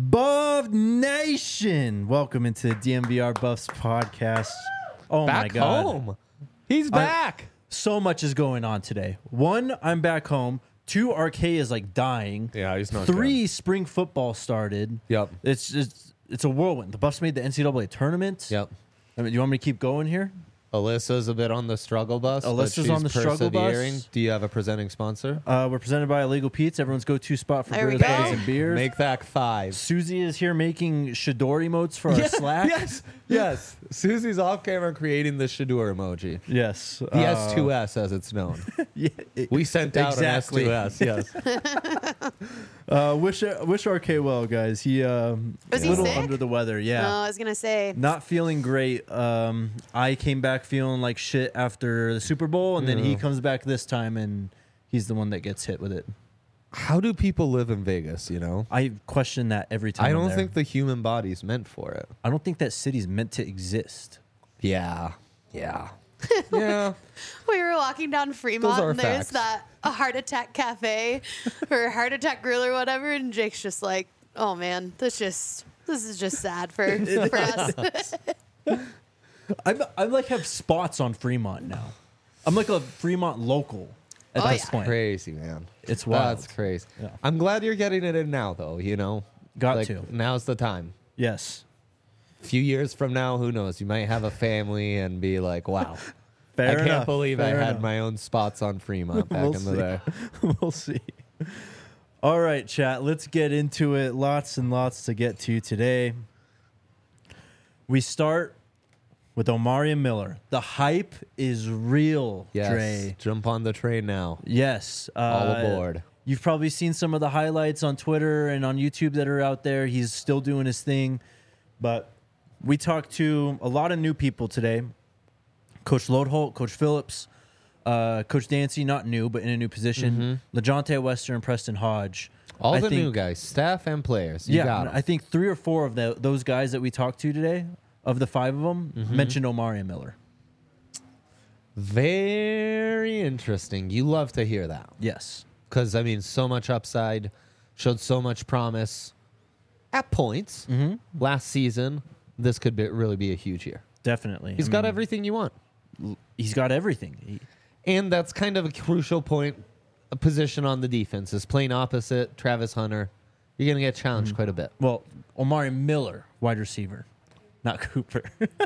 Buff Nation, welcome into the DMVR Buffs podcast. Oh my Back God. home. He's back. So much is going on today. One, I'm back home. Two, RK is like dying. Yeah, he's not Three, spring football started. Yep. It's a whirlwind. The Buffs made the NCAA tournament. Yep. I mean, you want me to keep going here? Alyssa's a bit on the struggle bus. Alyssa's but on the she's struggle bus. persevering. Do you have a presenting sponsor? We're presented by Illegal Pete's, everyone's go-to spot for There we burritos, go. patties, and beers. Make that 5. Susie is here making Shador emotes for our Slack. Yes. Susie's off camera creating the Shadur emoji. Yes. The S2S, as it's known. Yeah, We sent out Exactly. an S2S. Yes. wish RK well, guys. He Was a he little sick? under the weather. Yeah. I was gonna say. Not feeling great. I came back feeling like shit after the Super Bowl, and then he comes back this time, and he's the one that gets hit with it. How do people live in Vegas, you know? I question that every time. I I'm don't there. think the human body's meant for it. I don't think that city's meant to exist. Yeah. Yeah. Yeah. We were walking down Fremont, are and there's facts. that a heart attack cafe or a heart attack grill or whatever, and Jake's just like, "Oh man, this is just sad for us." I'm like have spots on Fremont now. I'm like a Fremont local at Oh, this yeah. point. Crazy, man. It's wild. That's crazy. Yeah. I'm glad you're getting it in now, though, you know? Got to. Now's the time. Yes. A few years from now, who knows? You might have a family and be like, wow, Fair I can't enough. believe I Fair had enough. my own spots on Fremont back We'll in the see. day. We'll see. All right, chat. Let's get into it. Lots and lots to get to today. We start with Omari Miller. The hype is real, Yes. Dre. Jump on the train now. Yes. All aboard. You've probably seen some of the highlights on Twitter and on YouTube that are out there. He's still doing his thing. But we talked to a lot of new people today. Coach Lodholt, Coach Phillips, Coach Dancy, not new, but in a new position. LeJontay Wester and Preston Hodge. All I the think- new guys, staff and players. You got 'em. I think 3 or 4 of those guys that we talked to today, of the 5 of them, mentioned Omari Miller. Very interesting. You love to hear that. Yes. Because, I mean, so much upside, showed so much promise at points. Last season, this could really be a huge year. Definitely. He's got everything you want. He's got everything. And that's kind of a crucial point, a position on the defense is playing opposite Travis Hunter. You're going to get challenged quite a bit. Well, Omari Miller, wide receiver, not Cooper.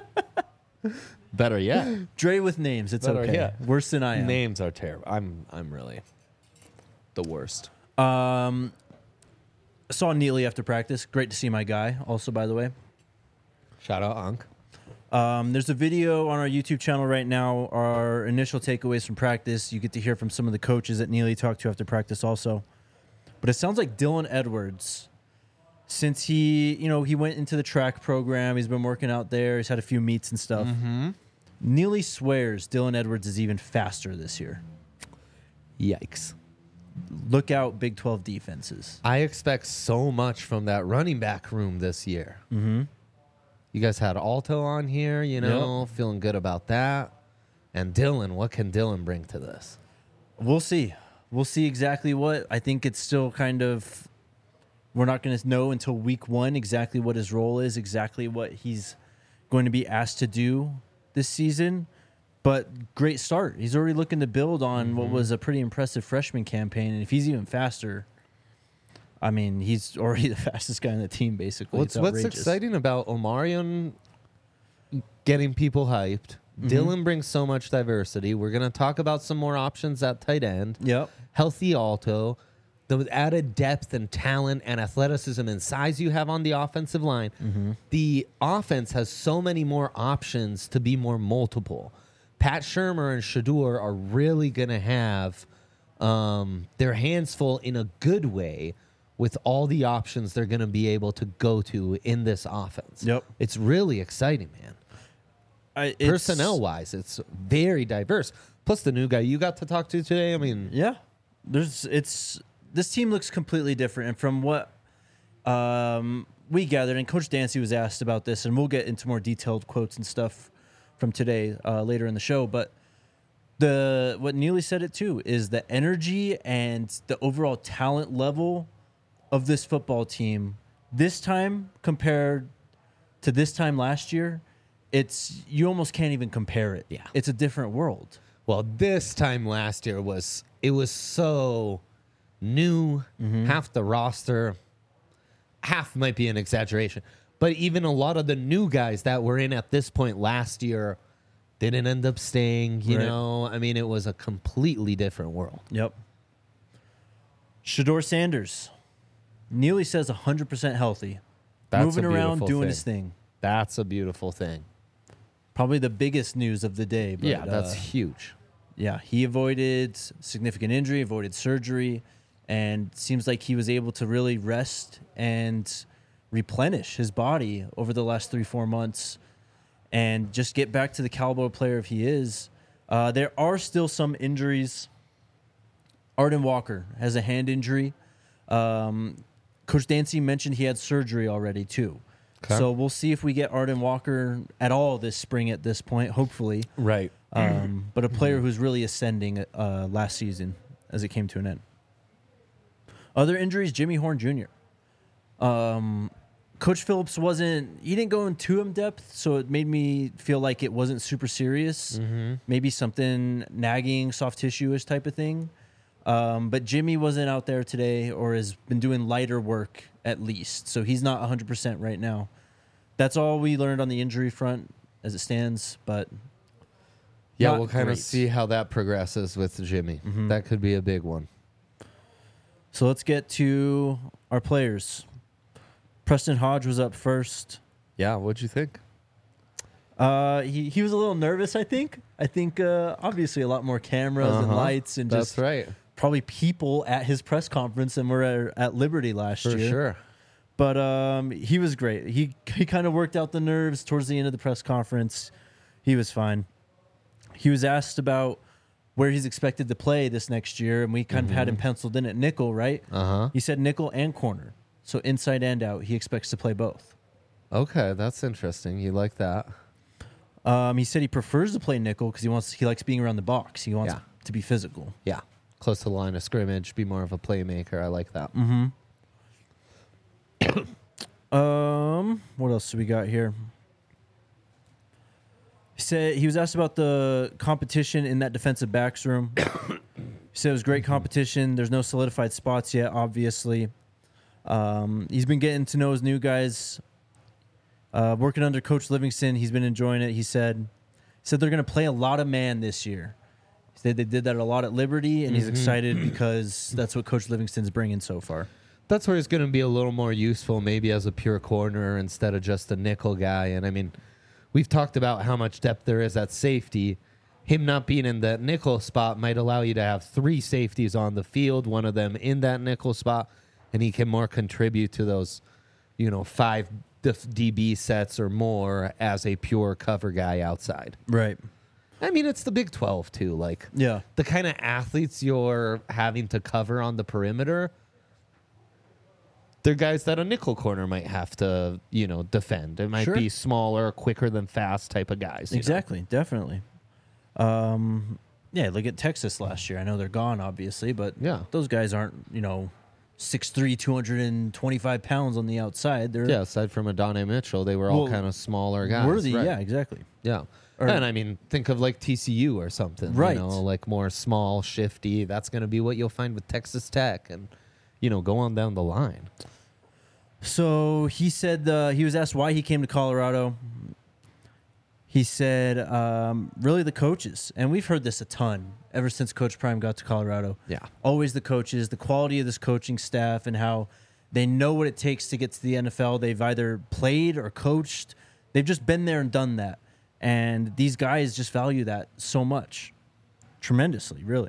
Better yet. Dre with names. It's Better okay. yet. Worse than I am. Names are terrible. I'm really the worst. I saw Neely after practice. Great to see my guy. Also, by the way, Shout out Unc. there's a video on our YouTube channel right now. Our initial takeaways from practice. You get to hear from some of the coaches that Neely talked to after practice, also. But it sounds like Dylan Edwards, since he went into the track program, he's been working out there. He's had a few meets and stuff. Neely swears Dylan Edwards is even faster this year. Yikes. Look out, Big 12 defenses. I expect so much from that running back room this year. You guys had Alto on here, feeling good about that. And Dylan, what can Dylan bring to this? We'll see. We'll see exactly what. I think it's still kind of, we're not going to know until week 1 exactly what his role is, exactly what he's going to be asked to do this season. But great start. He's already looking to build on what was a pretty impressive freshman campaign. And if he's even faster, I mean, he's already the fastest guy on the team, basically. What's It's outrageous. exciting about Omarion getting people hyped? Dylan brings so much diversity. We're going to talk about some more options at tight end. Yep. Healthy Alto, the added depth and talent and athleticism and size you have on the offensive line. The offense has so many more options to be more multiple. Pat Shurmur and Shadur are really going to have their hands full in a good way with all the options they're going to be able to go to in this offense. Yep. It's really exciting, man. Personnel-wise, it's very diverse. Plus, the new guy you got to talk to today, I mean... Yeah, this team looks completely different, and from what we gathered, and Coach Dancy was asked about this, and we'll get into more detailed quotes and stuff from today later in the show. But what Neely said it too is the energy and the overall talent level of this football team this time compared to this time last year, you almost can't even compare it. Yeah. It's a different world. Well, this time last year was so new. Half the roster, half might be an exaggeration, but even a lot of the new guys that were in at this point last year didn't end up staying. You Right. know, I mean, it was a completely different world. Yep. Shador Sanders, Neely says 100% healthy, That's moving a around, beautiful doing thing. his thing. That's a beautiful thing. Probably the biggest news of the day. But, Yeah, that's huge. Yeah, he avoided significant injury, avoided surgery, and seems like he was able to really rest and replenish his body over the last 3-4 months and just get back to the caliber player if he is. There are still some injuries. Arden Walker has a hand injury. Coach Dancy mentioned he had surgery already too. Okay. So we'll see if we get Arden Walker at all this spring at this point, hopefully. Right. But a player who's really ascending last season as it came to an end. Other injuries, Jimmy Horn Jr. Coach Phillips he didn't go in too in depth, so it made me feel like it wasn't super serious. Maybe something nagging, soft tissue-ish type of thing. But Jimmy wasn't out there today or has been doing lighter work at least. So he's not 100% right now. That's all we learned on the injury front as it stands. But Yeah, not we'll kind of great. see how that progresses with Jimmy. That could be a big one. So let's get to our players. Preston Hodge was up first. Yeah, what'd you think? He was a little nervous, I think. Obviously a lot more cameras and lights and That's just right. probably people at his press conference than were at Liberty last For year. sure. But he was great. He kind of worked out the nerves towards the end of the press conference. He was fine. He was asked about where he's expected to play this next year, and we kind of had him penciled in at nickel, right? Uh-huh. He said nickel and corner. So inside and out, he expects to play both. Okay, that's interesting. You like that? He said he prefers to play nickel because he likes being around the box. He wants Yeah. to be physical. Yeah. Close to the line of scrimmage, be more of a playmaker. I like that. What else do we got here? He said he was asked about the competition in that defensive backs room. He said it was great competition. There's no solidified spots yet, obviously. He's been getting to know his new guys. Working under Coach Livingston, he's been enjoying it. He said they're going to play a lot of man this year. He said they did that a lot at Liberty, and he's excited because that's what Coach Livingston's bringing so far. That's where he's going to be a little more useful, maybe as a pure corner instead of just a nickel guy. And I mean, we've talked about how much depth there is at safety. Him not being in that nickel spot might allow you to have 3 safeties on the field, one of them in that nickel spot, and he can more contribute to those, 5 DB sets or more as a pure cover guy outside. Right. I mean, it's the Big 12 too. Like, Yeah. the kind of athletes you're having to cover on the perimeter, they're guys that a nickel corner might have to, defend. It might Sure. be smaller, quicker than fast type of guys. you know? Exactly, definitely. Yeah, look at Texas last year. I know they're gone, obviously, but Yeah. those guys aren't, 6'3", 225 pounds on the outside. They're Yeah, aside from Adonai Mitchell, they were all Well, kind of smaller guys. worthy. Right. Yeah, exactly. Yeah. Or- And I mean, think of like TCU or something. Right. Like more small, shifty. That's going to be what you'll find with Texas Tech and, go on down the line. So he said he was asked why he came to Colorado. He said, really the coaches. And we've heard this a ton ever since Coach Prime got to Colorado. Yeah. Always the coaches, the quality of this coaching staff, and how they know what it takes to get to the NFL. They've either played or coached. They've just been there and done that. And these guys just value that so much. Tremendously, really.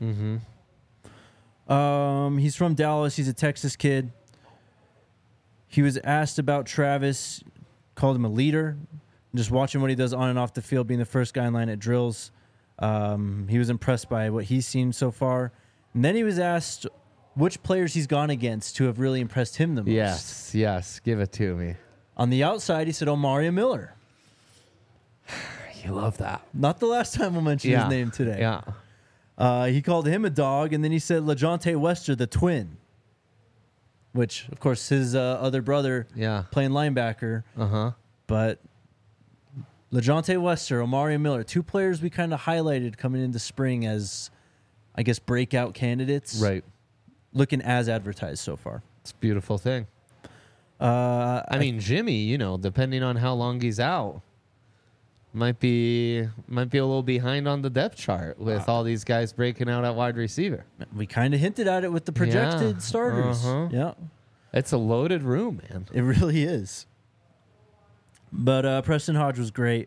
He's from Dallas. He's a Texas kid. He was asked about Travis, called him a leader. Just watching what he does on and off the field, being the first guy in line at drills. He was impressed by what he's seen so far. And then he was asked which players he's gone against who have really impressed him the most. Yes. Give it to me. On the outside, he said Omari Miller. You love that. Not the last time we'll mention his name today. Yeah. He called him a dog, and then he said LaJohntay Wester, the twin. which of course his other brother Yeah. playing linebacker. But LeJounte Wester, Omari Miller, two players we kind of highlighted coming into spring as, I guess, breakout candidates. Right. Looking as advertised so far. It's a beautiful thing. I mean, Jimmy, you know, depending on how long he's out, might be a little behind on the depth chart with all these guys breaking out at wide receiver. We kind of hinted at it with the projected Yeah. starters. Yeah, It's a loaded room, man. it really is. But Preston Hodge was great.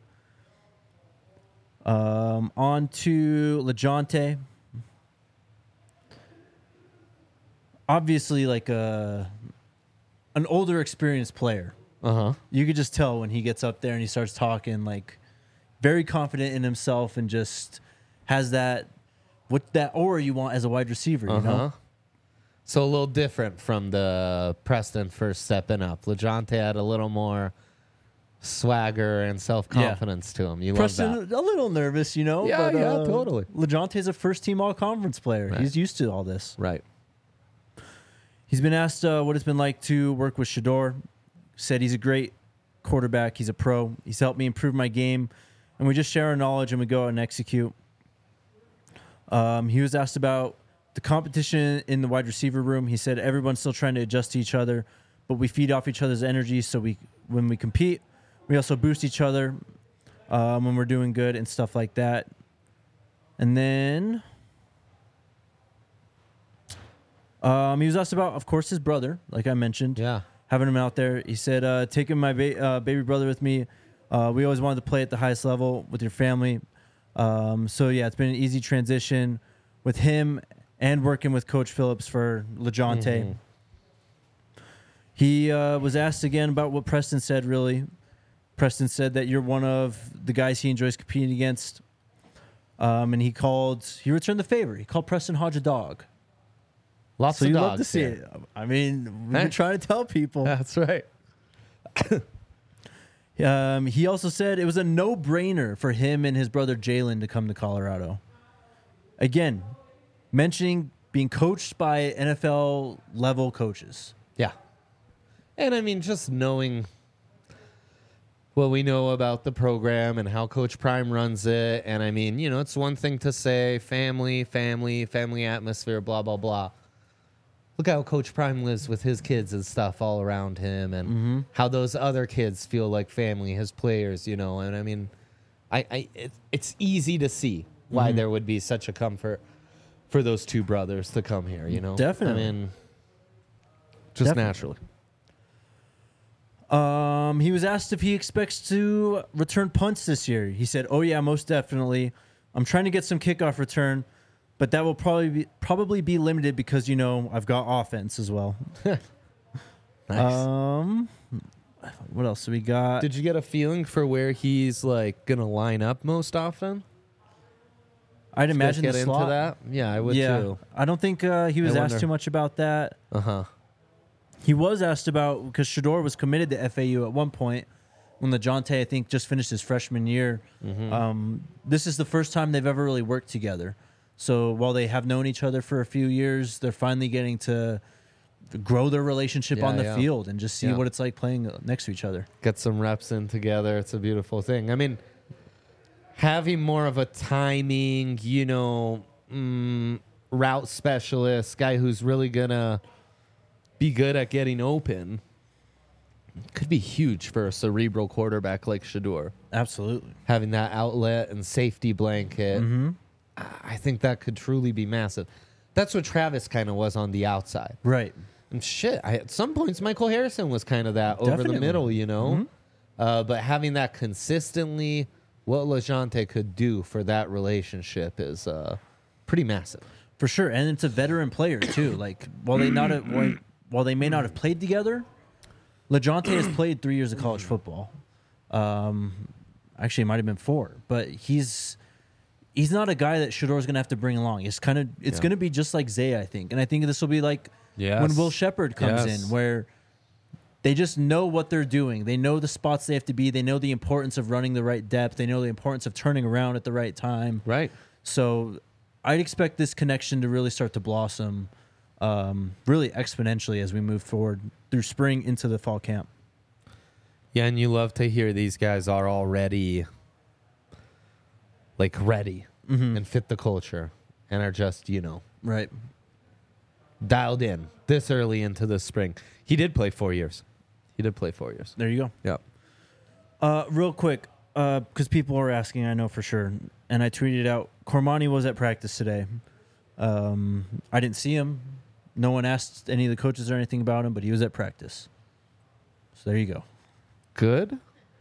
On to LeJounte. Obviously, like an older, experienced player. You could just tell when he gets up there and he starts talking, like very confident in himself and just has that aura you want as a wide receiver. You know, So a little different from the Preston first stepping up. LeJounte had a little more swagger and self-confidence to him. You Preston love that. a little nervous, you know. Yeah, but, yeah, totally. LeJounte's a first-team All-Conference player. Right. He's used to all this. Right. He's been asked what it's been like to work with Shedeur. Said he's a great quarterback. He's a pro. He's helped me improve my game, and we just share our knowledge and we go out and execute. He was asked about the competition in the wide receiver room. He said everyone's still trying to adjust to each other, but we feed off each other's energy. So when we compete, we also boost each other when we're doing good and stuff like that. And then he was asked about, of course, his brother, like I mentioned. Yeah. Having him out there. He said, taking my baby brother with me, we always wanted to play at the highest level with your family. So, yeah, it's been an easy transition with him and working with Coach Phillips for LeJounte. He was asked again about what Preston said, really. Preston said that you're one of the guys he enjoys competing against. And he returned the favor. He called Preston Hodge a dog. Lots So of you dogs love to see here. it. I mean, we've been trying to tell people. That's right. He also said it was a no-brainer for him and his brother Jalen to come to Colorado. Again, mentioning being coached by NFL-level coaches. Yeah. And I mean, just knowing what we know about the program and how Coach Prime runs it. And I mean, you know, it's one thing to say family atmosphere, blah, blah, blah. Look how Coach Prime lives with his kids and stuff all around him and how those other kids feel like family, his players, you know. And I mean, it's easy to see why there would be such a comfort for those two brothers to come here, you know. Definitely. I mean, just Definitely. naturally. He was asked if he expects to return punts this year. He said, "Oh yeah, most definitely. I'm trying to get some kickoff return, but that will probably be limited because you know I've got offense as well." Nice. What else do we got? Did you get a feeling for where he's like gonna line up most often? I'd Did you guys imagine get the into slot. that. Yeah, I would Yeah, too. I don't think he was I asked wonder. too much about that. He He was asked about because Shedeur was committed to FAU at one point when LeJounte, I think, just finished his freshman year. This is the first time they've ever really worked together. So while they have known each other for a few years, they're finally getting to grow their relationship on the field and just see what it's like playing next to each other. get some reps in together. It's a beautiful thing. I mean, having more of a timing, you know, route specialist, guy who's really gonna be good at getting open, could be huge for a cerebral quarterback like Shedeur. Absolutely. Having that outlet and safety blanket, I think that could truly be massive. That's what Travis kind of was on the outside. Right. And shit, at some points, Michael Harrison was kind of that over Definitely. the middle, you know? But having that consistently, what LeJounte could do for that relationship is pretty massive. For sure. And it's a veteran player, too. Like, while they may not have played together, LeJounte has played 3 years of college football. Actually, it might have been 4. But he's not a guy that Shedeur's going to have to bring along. It's going to be just like Zay, I think. And I think this will be like when Will Shepard comes in, where they just know what they're doing. They know the spots they have to be. They know the importance of running the right depth. They know the importance of turning around at the right time. Right. So I'd expect this connection to really start to blossom really exponentially as we move forward through spring into the fall camp. Yeah, and you love to hear these guys are already like ready and fit the culture and are just, Right. dialed in this early into the spring. He did play 4 years. There you go. Yep. Real quick, because people are asking, I know for sure, and I tweeted out, Cormani was at practice today. I didn't see him. No one asked any of the coaches or anything about him, but he was at practice. So there you go. Good.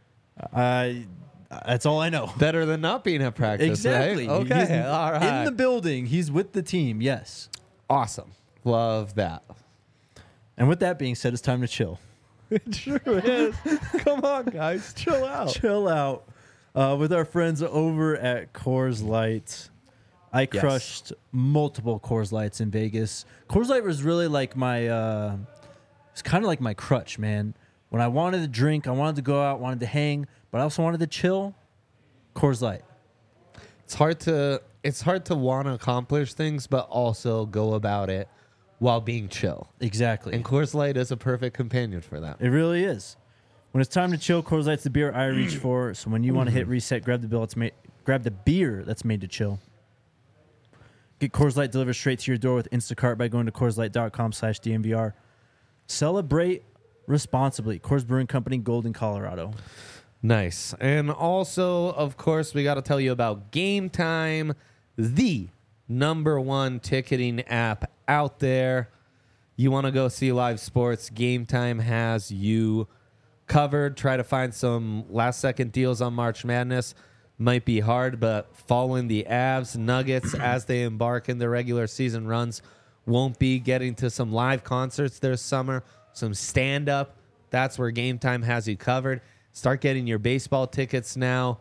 That's all I know. Better than not being at practice. Exactly. Right? Okay. He's All right. in the building. He's with the team. Yes. Awesome. Love that. And with that being said, it's time to chill. It sure is. Come on, guys. Chill out. Chill out. With our friends over at Coors Light. I Yes. crushed multiple Coors Lights in Vegas. Coors Light was really like my, it's kind of like my crutch, man. When I wanted to drink, I wanted to go out, wanted to hang, but I also wanted to chill. Coors Light. It's hard to want to accomplish things, but also go about it while being chill. Exactly. And Coors Light is a perfect companion for that. It really is. When it's time to chill, Coors Light's the beer I reach for. So when you want to hit reset, grab the beer that's made to chill. Get Coors Light delivered straight to your door with Instacart by going to CoorsLight.com/DNVR. Celebrate responsibly. Coors Brewing Company, Golden, Colorado. Nice. And also, of course, we got to tell you about Game Time, the #1 ticketing app out there. You want to go see live sports, Game Time has you covered. Try to find some last-second deals on March Madness. Might be hard, but following the Avs, Nuggets as they embark in their regular season runs won't be. Getting to some live concerts this summer, some stand-up. That's where Game Time has you covered. Start getting your baseball tickets now.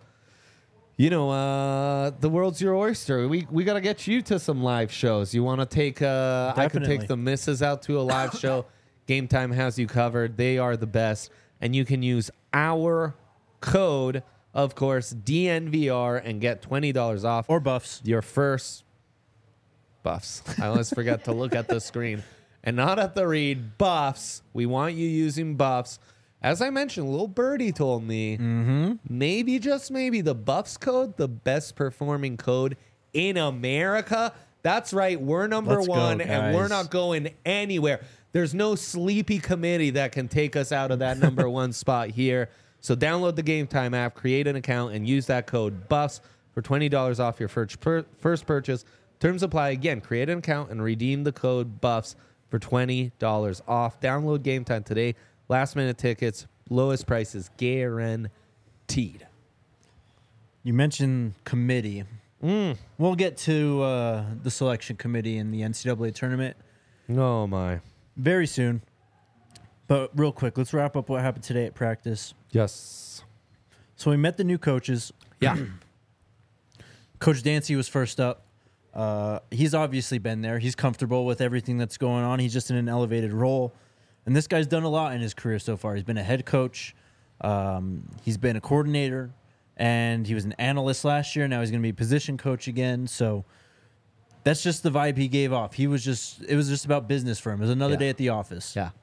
The world's your oyster. We got to get you to some live shows. You want to take I could Definitely. take the missus out to a live show. Game Time has you covered. They are the best. And you can use our code, of course, DNVR, and get $20 off Or Buffs. your first Buffs. I always forget to look at the screen and not at the read. Buffs. We want you using Buffs. As I mentioned, little birdie told me maybe, just maybe, the Buffs code, the best performing code in America. That's right. We're number Let's go, one, and we're guys. not going anywhere. There's no sleepy committee that can take us out of that #1 spot here. So download the Game Time app, create an account, and use that code BUFFS for $20 off your first purchase. Terms apply. Again, create an account and redeem the code BUFFS for $20 off. Download Game Time today. Last minute tickets, lowest prices guaranteed. You mentioned committee. We'll get to the selection committee in the NCAA tournament Oh, my. very soon. But real quick, let's wrap up what happened today at practice. Yes. So we met the new coaches. Yeah. Coach Dancy was first up. He's obviously been there. He's comfortable with everything that's going on. He's just in an elevated role. And this guy's done a lot in his career so far. He's been a head coach. He's been a coordinator. And he was an analyst last year. Now he's going to be position coach again. So that's just the vibe he gave off. It was just about business for him. It was another Yeah. day at the office. Yeah.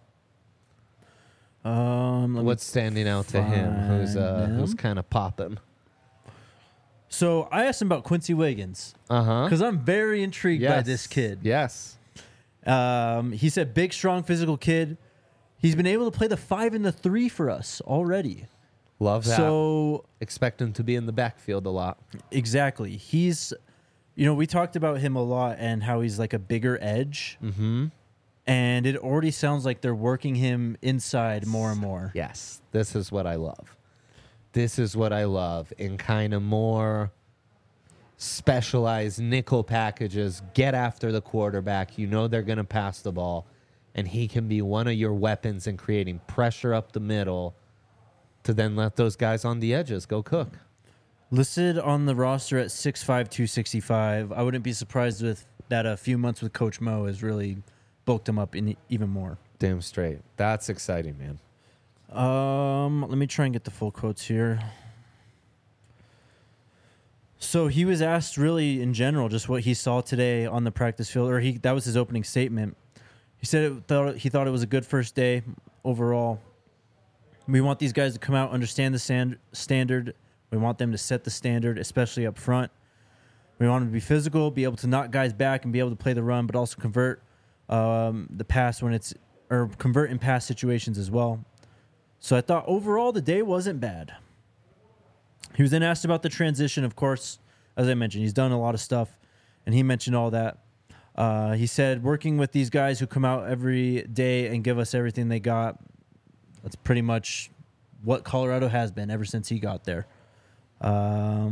Let me- What's standing out to him? Who's him. kind of popping? So I asked him about Quincy Wiggins Uh-huh. because I'm very intrigued by this kid. Yes. He said, big, strong, physical kid. He's been able to play the 5 and the 3 for us already. Love that. So Expect him to be in the backfield a lot. exactly, he's, we talked about him a lot and how he's like a bigger edge. Mm-hmm. And it already sounds like they're working him inside more and more. Yes. This is what I love. This is what I love in kind of more specialized nickel packages. Get after the quarterback. You know they're going to pass the ball. And he can be one of your weapons in creating pressure up the middle to then let those guys on the edges go cook. Listed on the roster at 6'5", 265. I wouldn't be surprised with that a few months with Coach Mo has really bulked him up in even more. Damn straight. That's exciting, man. Let me try and get the full quotes here. So he was asked really in general just what he saw today on the practice field, or that was his opening statement. He said he thought it was a good first day overall. We want these guys to come out, understand the standard. We want them to set the standard, especially up front. We want them to be physical, be able to knock guys back and be able to play the run, but also convert the pass convert in pass situations as well. So I thought overall the day wasn't bad. He was then asked about the transition, of course. As I mentioned, he's done a lot of stuff, and he mentioned all that. He said working with these guys who come out every day and give us everything they got, that's pretty much what Colorado has been ever since he got there. Let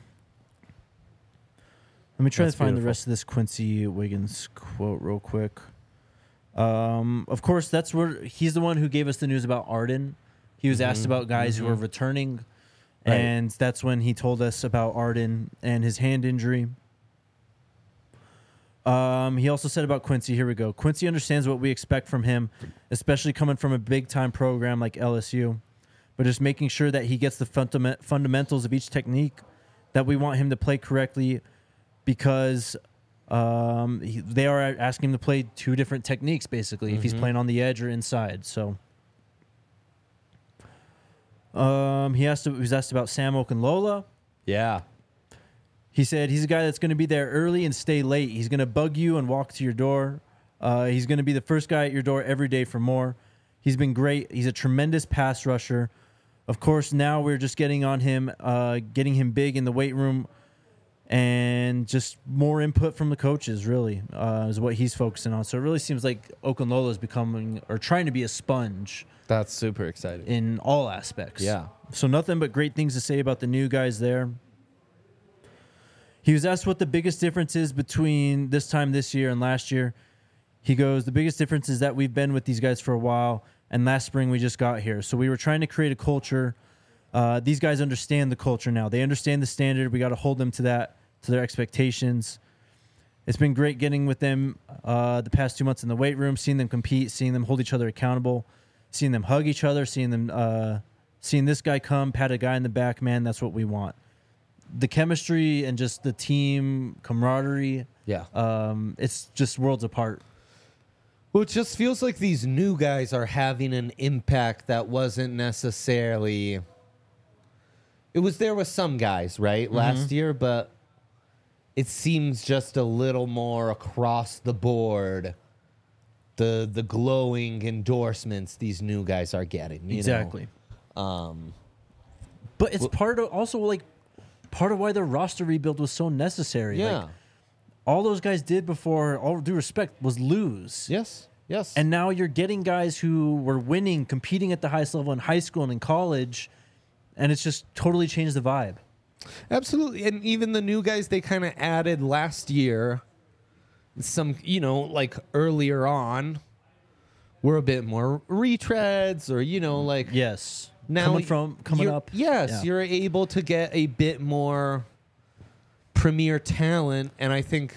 me try to find the rest of this Quincy Wiggins quote real quick. Of course, that's where he's the one who gave us the news about Arden. He was asked about guys who are returning, and that's when he told us about Arden and his hand injury. He also said about Quincy, here we go. Quincy understands what we expect from him, especially coming from a big-time program like LSU, but just making sure that he gets the fundamentals of each technique that we want him to play correctly, because they are asking him to play two different techniques, basically, if he's playing on the edge or inside. So he was asked about Sam Okunlola. Yeah. He said he's a guy that's going to be there early and stay late. He's going to bug you and walk to your door. He's going to be the first guy at your door every day for more. He's been great. He's a tremendous pass rusher. Of course, now we're just getting on him, getting him big in the weight room, and just more input from the coaches, really, is what he's focusing on. So it really seems like Okunlola is becoming, or trying to be, a sponge. That's super exciting. In all aspects. Yeah. So nothing but great things to say about the new guys there. He was asked what the biggest difference is between this time this year and last year. He goes, the biggest difference is that we've been with these guys for a while, and last spring we just got here. So we were trying to create a culture. These guys understand the culture now. They understand the standard. We got to hold them to that, to their expectations. It's been great getting with them the past 2 months in the weight room, seeing them compete, seeing them hold each other accountable, seeing them hug each other, seeing this guy come, pat a guy in the back. Man, that's what we want. The chemistry and just the team camaraderie. Yeah. It's just worlds apart. Well, it just feels like these new guys are having an impact that wasn't necessarily. It was there with some guys, right, last year, but it seems just a little more across the board. The glowing endorsements these new guys are getting. You Exactly. know? But it's part of why the roster rebuild was so necessary. Yeah. Like, all those guys did before, all due respect, was lose. Yes. Yes. And now you're getting guys who were winning, competing at the highest level in high school and in college, and it's just totally changed the vibe. Absolutely. And even the new guys they kind of added last year, some, like earlier on, were a bit more retreads or, like. Yes. Now coming up. Yes, Yeah. you're able to get a bit more premier talent. And I think,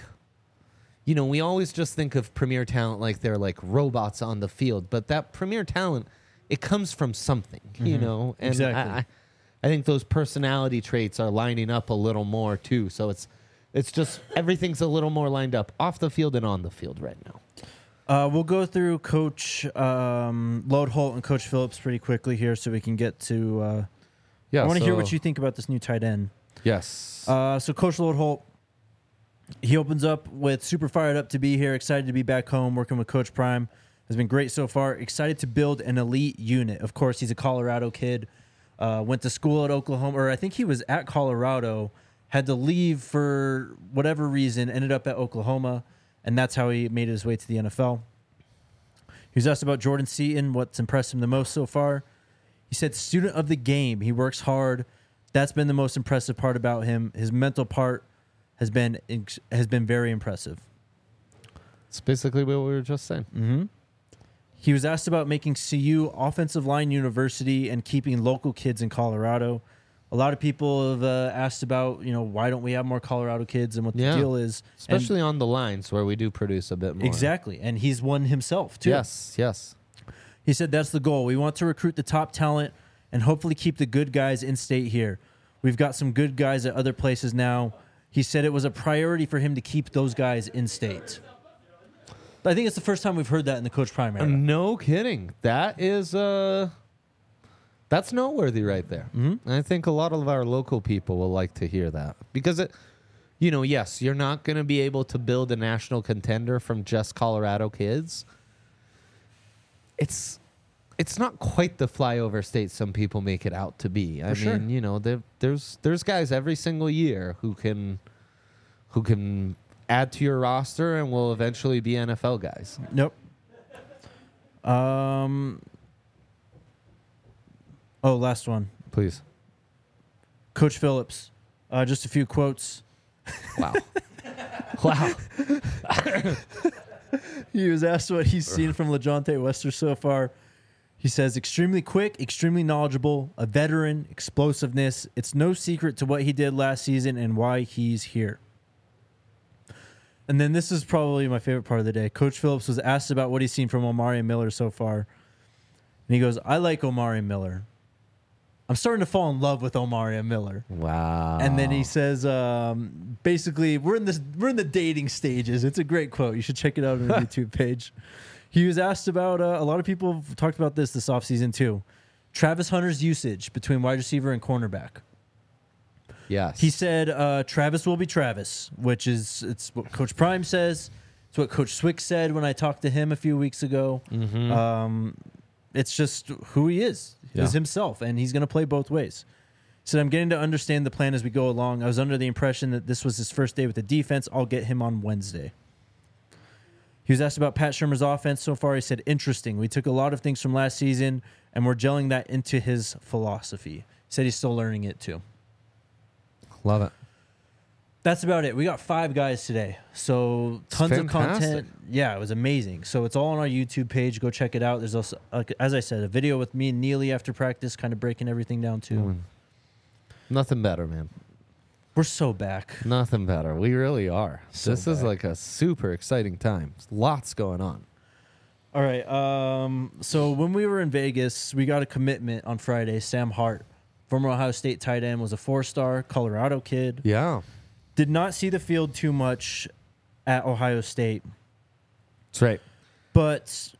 we always just think of premier talent like they're like robots on the field. But that premier talent, it comes from something, And Exactly. I think those personality traits are lining up a little more too. So it's just everything's a little more lined up off the field and on the field right now. We'll go through Coach Lode Holt and Coach Phillips pretty quickly here so we can get to... I want to hear what you think about this new tight end. Yes. So Coach Lode Holt, he opens up with super fired up to be here, excited to be back home, working with Coach Prime. Has been great so far. Excited to build an elite unit. Of course, he's a Colorado kid. Went to school at Oklahoma, or I think he was at Colorado, had to leave for whatever reason, ended up at Oklahoma, and that's how he made his way to the NFL. He was asked about Jordan Seaton, what's impressed him the most so far. He said, student of the game. He works hard. That's been the most impressive part about him. His mental part has been very impressive. It's basically what we were just saying. Mm-hmm. He was asked about making CU offensive line university and keeping local kids in Colorado. A lot of people have asked about, why don't we have more Colorado kids and what the deal is. Especially on the lines where we do produce a bit more. Exactly. And he's one himself, too. Yes. He said that's the goal. We want to recruit the top talent and hopefully keep the good guys in state here. We've got some good guys at other places now. He said it was a priority for him to keep those guys in state. I think it's the first time we've heard that in the Coach Prime era. No kidding. That is that's noteworthy right there. Mm-hmm. I think a lot of our local people will like to hear that because it, you know, yes, you're not going to be able to build a national contender from just Colorado kids. It's not quite the flyover state some people make it out to be. I mean, sure. you know, there's guys every single year who can add to your roster and will eventually be NFL guys. Nope. Oh, last one. Please. Coach Phillips. Just a few quotes. Wow. Wow. He was asked what he's seen from LeJohntay Wester so far. He says, extremely quick, extremely knowledgeable, a veteran, explosiveness. It's no secret to what he did last season and why he's here. And then this is probably my favorite part of the day. Coach Phillips was asked about what he's seen from Omari Miller so far. And he goes, I like Omari Miller. I'm starting to fall in love with Omari Miller. Wow. And then he says, basically, we're in the dating stages. It's a great quote. You should check it out on the YouTube page. He was asked about, a lot of people have talked about this offseason too. Travis Hunter's usage between wide receiver and cornerback. Yes. He said Travis will be Travis, which is it's what Coach Prime says. It's what Coach Swick said when I talked to him a few weeks ago. Mm-hmm. It's just who he is. Yeah. Is himself, and he's going to play both ways. He said, I'm getting to understand the plan as we go along. I was under the impression that this was his first day with the defense. I'll get him on Wednesday. He was asked about Pat Shurmur's offense so far. He said, interesting. We took a lot of things from last season, and we're gelling that into his philosophy. He said he's still learning it, too. Love it. That's about it. We got 5 guys today. So tons of content. Yeah, it was amazing. So it's all on our YouTube page. Go check it out. There's also, as I said, a video with me and Neely after practice, kind of breaking everything down, too. Nothing better, man. We're so back. Nothing better. We really are. So this is back. like a super exciting time. Lots going on. All right. So when we were in Vegas, we got a commitment on Friday. Sam Hart, former Ohio State tight end, was a 4-star Colorado kid. Yeah. Did not see the field too much at Ohio State. That's right. But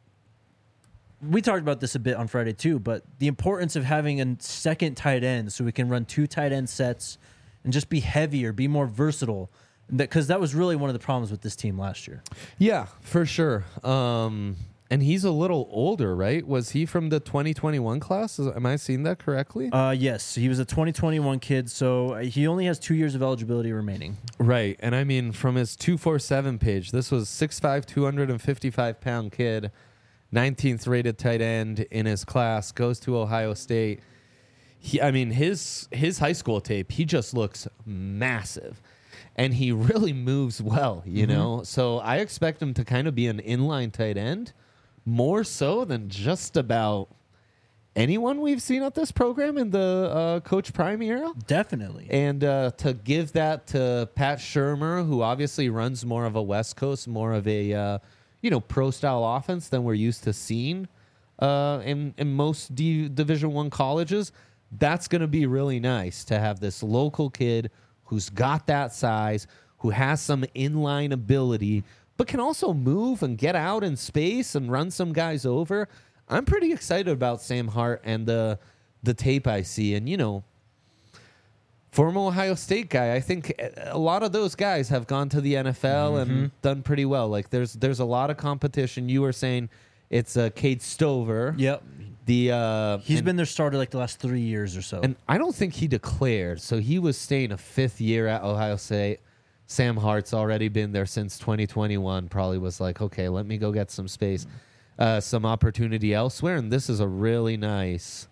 we talked about this a bit on Friday too, but the importance of having a second tight end so we can run 2 tight end sets and just be heavier, be more versatile. Because that was really one of the problems with this team last year. Yeah, for sure. And he's a little older, right? Was he from the 2021 class? Am I seeing that correctly? Yes, he was a 2021 kid, so he only has 2 years of eligibility remaining. Right. And I mean, from his 247 page, this was 6'5", 255-pound kid, 19th rated tight end in his class, goes to Ohio State. His high school tape, he just looks massive. And he really moves well, you know? So I expect him to kind of be an inline tight end, more so than just about anyone we've seen at this program in the Coach Prime era. Definitely. And to give that to Pat Shurmur, who obviously runs more of a West Coast, more of a pro-style offense than we're used to seeing in most Division I colleges, that's going to be really nice to have this local kid who's got that size, who has some inline ability, but can also move and get out in space and run some guys over. I'm pretty excited about Sam Hart and the tape I see. And, former Ohio State guy, I think a lot of those guys have gone to the NFL and done pretty well. Like, there's a lot of competition. You were saying it's Cade Stover. Yep. He's been their starter like the last 3 years or so. And I don't think he declared. So he was staying a 5th year at Ohio State. Sam Hart's already been there since 2021. Probably was like, okay, let me go get some space, some opportunity elsewhere. And this is a really nice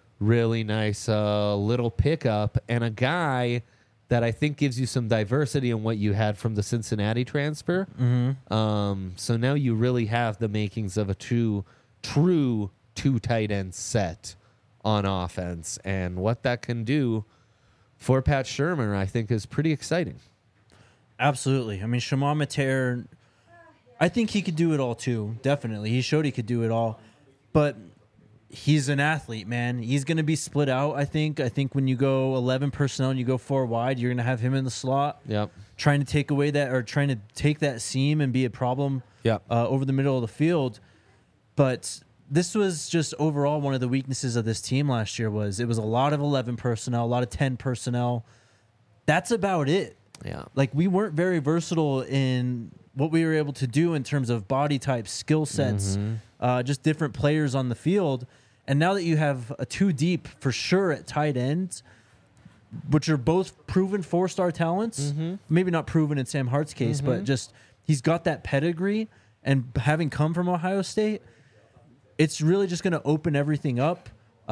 little pickup and a guy that I think gives you some diversity in what you had from the Cincinnati transfer. So now you really have the makings of a true 2 tight end set on offense. And what that can do for Pat Shurmur, I think, is pretty exciting. Absolutely. I mean, Shimon Mater, I think he could do it all too. Definitely. He showed he could do it all. But he's an athlete, man. He's going to be split out, I think. I think when you go 11 personnel and you go 4 wide, you're going to have him in the slot. Yep. Trying to take away that or trying to take that seam and be a problem over the middle of the field. But this was just overall one of the weaknesses of this team last year it was a lot of 11 personnel, a lot of 10 personnel. That's about it. Yeah. Like we weren't very versatile in what we were able to do in terms of body types, skill sets, just different players on the field. And now that you have a 2 deep for sure at tight ends, which are both proven 4-star talents, maybe not proven in Sam Hart's case, but just he's got that pedigree, and having come from Ohio State, it's really just going to open everything up.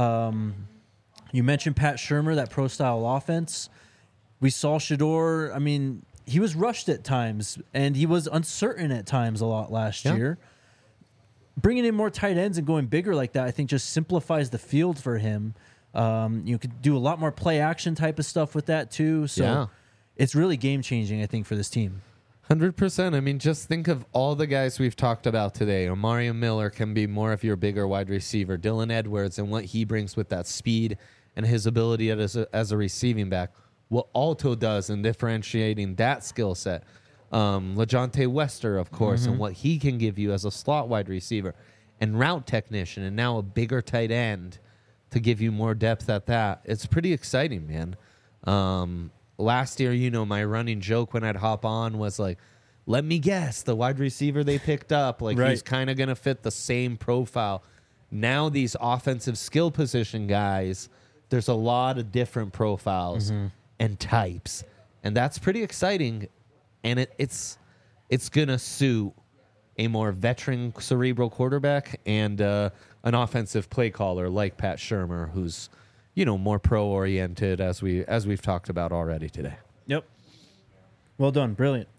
You mentioned Pat Shurmur, that pro-style offense. We saw Shedeur. I mean, he was rushed at times, and he was uncertain at times a lot last year. Bringing in more tight ends and going bigger like that, I think, just simplifies the field for him. You could do a lot more play action type of stuff with that too. So it's really game changing, I think, for this team. 100%. I mean, just think of all the guys we've talked about today. Omari Miller can be more of your bigger wide receiver. Dylan Edwards and what he brings with that speed and his ability as a receiving back. What Alto does in differentiating that skill set. LaJohntay Wester, of course, and what he can give you as a slot wide receiver and route technician, and now a bigger tight end to give you more depth at that. It's pretty exciting, man. Last year, my running joke when I'd hop on was like, let me guess, the wide receiver they picked up, like he's kind of going to fit the same profile. Now these offensive skill position guys, there's a lot of different profiles and types, and that's pretty exciting. And it's going to suit a more veteran cerebral quarterback and an offensive play caller like Pat Shurmur, who's, more pro-oriented as we've talked about already today. Yep. Well done. Brilliant.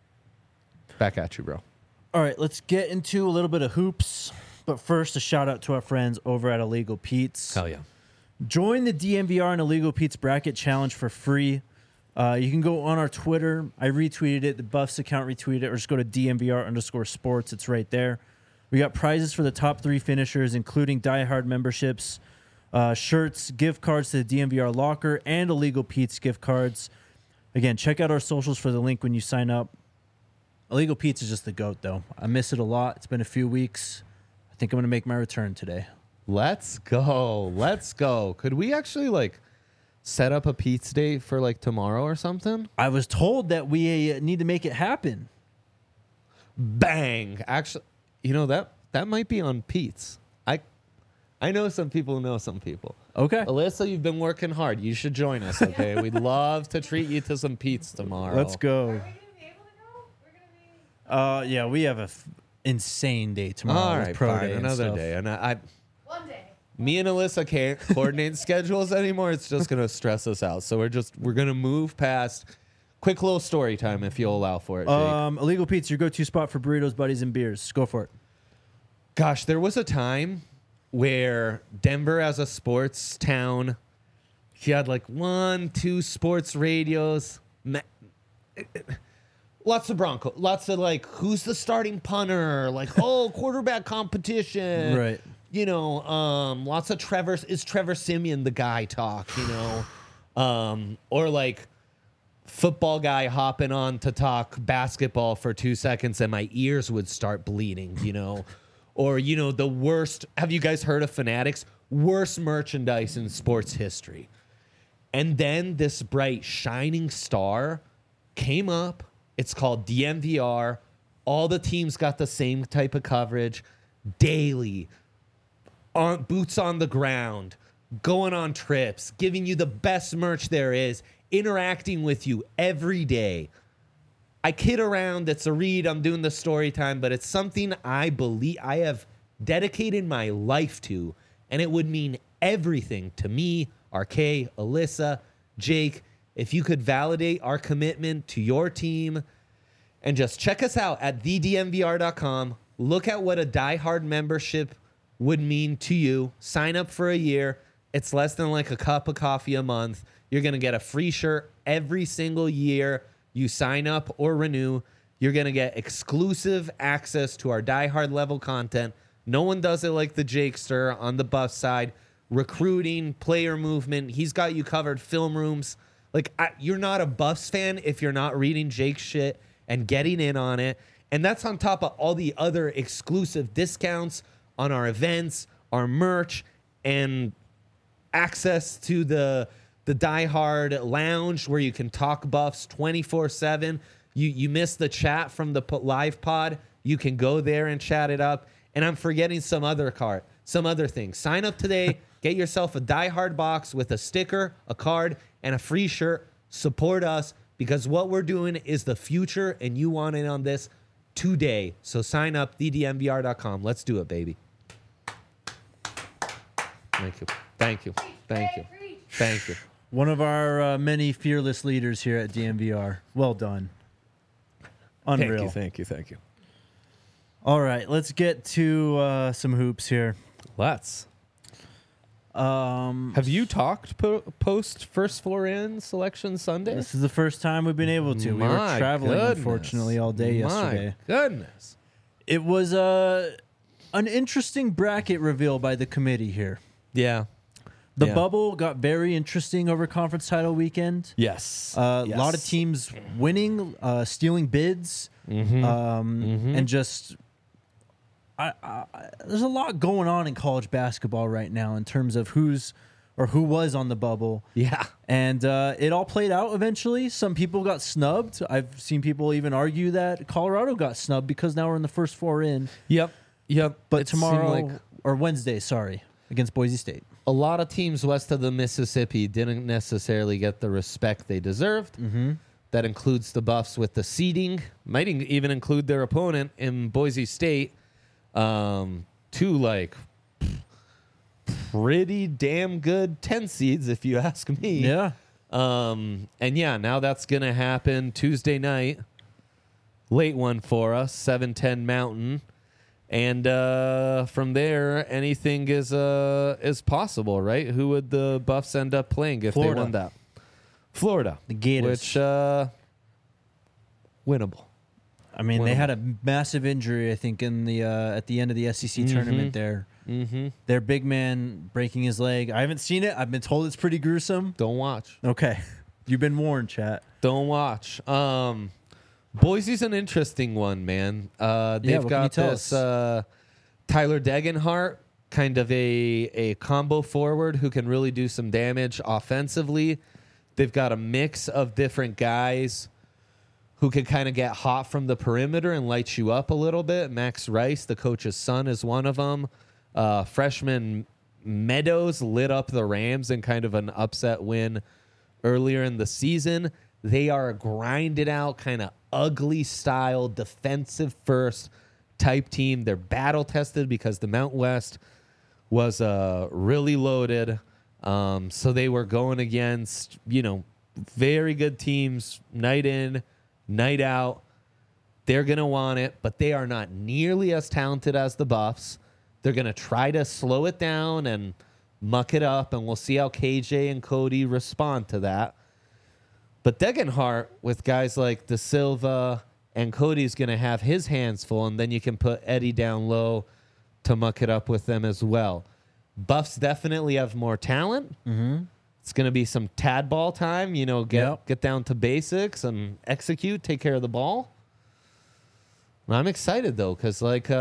Back at you, bro. All right, let's get into a little bit of hoops. But first, a shout-out to our friends over at Illegal Pete's. Hell yeah. Join the DMVR and Illegal Pete's Bracket Challenge for free. You can go on our Twitter. I retweeted it. The Buffs account retweeted it. Or just go to DMVR_sports. It's right there. We got prizes for the top 3 finishers, including Die Hard memberships, shirts, gift cards to the DMVR locker, and Illegal Pete's gift cards. Again, check out our socials for the link when you sign up. Illegal Pete's is just the GOAT, though. I miss it a lot. It's been a few weeks. I think I'm going to make my return today. Let's go. Let's go. Could we actually, set up a Pete's date for tomorrow or something? I was told that we need to make it happen. Bang. Actually, that might be on Pete's. I know some people know some people. Okay. Alyssa, you've been working hard. You should join us, okay? We'd love to treat you to some Pete's tomorrow. Let's go. Are we going to be able to go? We're going to be... Yeah, we have a insane day tomorrow. All with right, pro fine. day and Another stuff. day. And One day. me and Alyssa can't coordinate schedules anymore. It's just going to stress us out. So we're going to move past. Quick little story time if you'll allow for it, Jake. Illegal Pete's, your go-to spot for burritos, buddies, and beers. Go for it. Gosh, there was a time where Denver, as a sports town, he had 1, 2 sports radios. Lots of Bronco. Lots of who's the starting punter? Quarterback competition. Right. Lots of Trevor. Is Trevor Siemian the guy talk? Or football guy hopping on to talk basketball for 2 seconds and my ears would start bleeding. Or, the worst. Have you guys heard of Fanatics? Worst merchandise in sports history. And then this bright shining star came up. It's called DMVR. All the teams got the same type of coverage daily, on boots on the ground, going on trips, giving you the best merch there is, interacting with you every day. I kid around. It's a read. I'm doing the story time, but it's something I believe I have dedicated my life to, and it would mean everything to me, RK, Alyssa, Jake, if you could validate our commitment to your team. And just check us out at thedmvr.com. Look at what a Die Hard membership would mean to you. Sign up for a year. It's less than a cup of coffee a month. You're going to get a free shirt every single year you sign up or renew. You're going to get exclusive access to our Die Hard level content, No one does it like the Jakester on the Buff side. Recruiting, player movement. He's got you covered. Film rooms. Like, you're not a Buffs fan if you're not reading Jake's shit and getting in on it. And that's on top of all the other exclusive discounts on our events, our merch, and access to the Die Hard Lounge where you can talk Buffs 24/7. You missed the chat from the live pod. You can go there and chat it up. And I'm forgetting some other thing. Sign up today. Get yourself a Die Hard box with a sticker, a card, and a free shirt. Support us because what we're doing is the future, and you want in on this today. So sign up, ddmvr.com. Let's do it, baby. Thank you. Thank you. Thank you. Thank you. One of our many fearless leaders here at DMVR. Well done. Unreal. Thank you. All right, let's get to some hoops here. Let's. Have you talked post first four in selection Sunday? This is the first time we've been able to. We were My traveling, goodness. unfortunately, all day yesterday. My goodness. It was an interesting bracket reveal by the committee here. Yeah. The Yeah. bubble got very interesting over conference title weekend. Yes. A lot of teams winning, stealing bids, and just there's a lot going on in college basketball right now in terms of who was on the bubble. Yeah. And it all played out eventually. Some people got snubbed. I've seen people even argue that Colorado got snubbed because now we're in the first four in. Yep. But It seemed tomorrow, like or Wednesday, against Boise State. a lot of teams west of the Mississippi didn't necessarily get the respect they deserved. Mm-hmm. That includes the Buffs with the seeding. Might even include their opponent in Boise State. Two like pretty damn good 10 seeds, if you ask me. Yeah. And yeah, now that's gonna happen Tuesday night. Late one for us, 7:10 Mountain. And from there, anything is possible, right? Who would the Buffs end up playing if Florida. they won that? Florida. The Gators. Which, winnable. I mean, they had a massive injury, I think, in the at the end of the SEC tournament there. Mm-hmm. Their big man breaking his leg. I haven't seen it. I've been told it's pretty gruesome. Don't watch. Okay. You've been warned, chat. Don't watch. Boise's an interesting one, man. They've what can you got tell this us? Tyler Degenhart, kind of a combo forward who can really do some damage offensively. They've got a mix of different guys who can kind of get hot from the perimeter and light you up a little bit. Max Rice, the coach's son, is one of them. Freshman Meadows lit up the Rams in kind of an upset win earlier in the season. They are a grinded out, kind of ugly style, defensive first type team. They're battle tested because the Mount West was really loaded. So they were going against, very good teams night in, night out. They're going to want it, but they are not nearly as talented as the Buffs. They're going to try to slow it down and muck it up, and we'll see how KJ and Cody respond to that. But Degenhart, with guys like Da Silva and Cody's going to have his hands full, and then you can put Eddie down low to muck it up with them as well. Buffs definitely have more talent. Mm-hmm. It's going to be some tad ball time, get down to basics and execute, take care of the ball. I'm excited, though, because,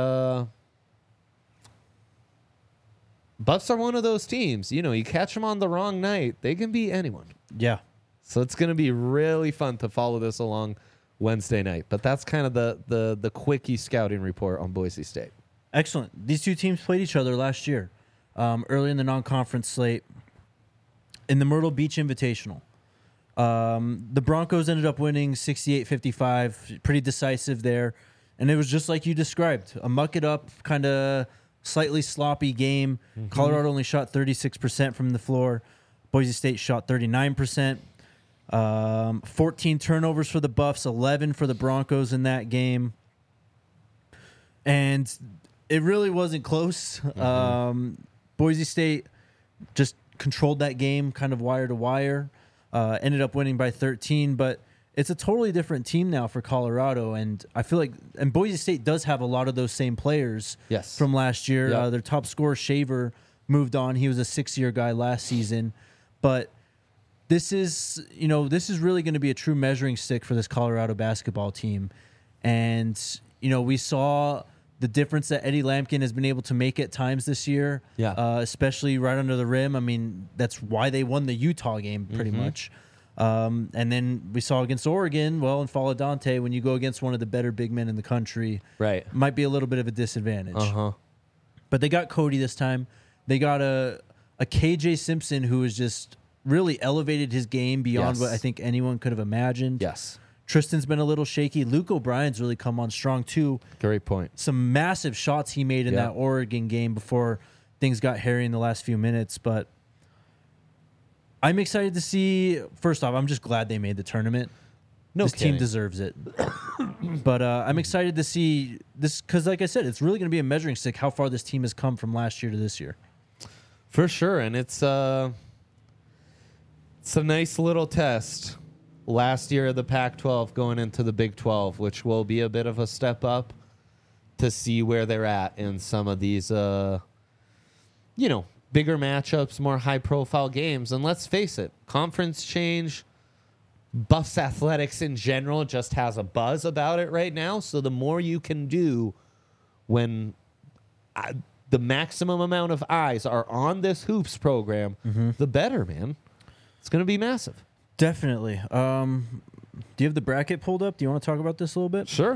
Buffs are one of those teams. You catch them on the wrong night, they can beat anyone. Yeah. So it's going to be really fun to follow this along Wednesday night. But that's kind of the quickie scouting report on Boise State. Excellent. These two teams played each other last year, early in the non-conference slate, in the Myrtle Beach Invitational. The Broncos ended up winning 68-55, pretty decisive there. And it was just like you described, a muck-it-up, kind of slightly sloppy game. Mm-hmm. Colorado only shot 36% from the floor. Boise State shot 39%. 14 turnovers for the Buffs, 11 for the Broncos in that game. And it really wasn't close. Mm-hmm. Boise State just controlled that game kind of wire to wire. Ended up winning by 13, but it's a totally different team now for Colorado, and I feel like Boise State does have a lot of those same players Yes. from last year. Yep. Their top scorer Shaver moved on. He was a 6-year guy last season, but this is really going to be a true measuring stick for this Colorado basketball team. And we saw the difference that Eddie Lampkin has been able to make at times this year, especially right under the rim. I mean, that's why they won the Utah game pretty much. And then we saw against Oregon, in Fala Dante, when you go against one of the better big men in the country, Right. might be a little bit of a disadvantage. Uh-huh. But they got Cody this time. They got a KJ Simpson who has just really elevated his game beyond Yes. what I think anyone could have imagined. Yes. Tristan's been a little shaky. Luke O'Brien's really come on strong too. Great point. Some massive shots he made in Yeah. that Oregon game before things got hairy in the last few minutes. But I'm excited to see. First off, I'm just glad they made the tournament. No This team kidding. deserves it. But I'm excited to see this because, like I said, it's really going to be a measuring stick how far this team has come from last year to this year. For sure, and it's a nice little test. Last year of the Pac-12 going into the Big 12, which will be a bit of a step up to see where they're at in some of these, bigger matchups, more high-profile games. And let's face it, conference change, Buffs athletics in general just has a buzz about it right now. So the more you can do when the maximum amount of eyes are on this hoops program, the better, man. It's going to be massive. Definitely. Do you have the bracket pulled up? Do you want to talk about this a little bit? Sure.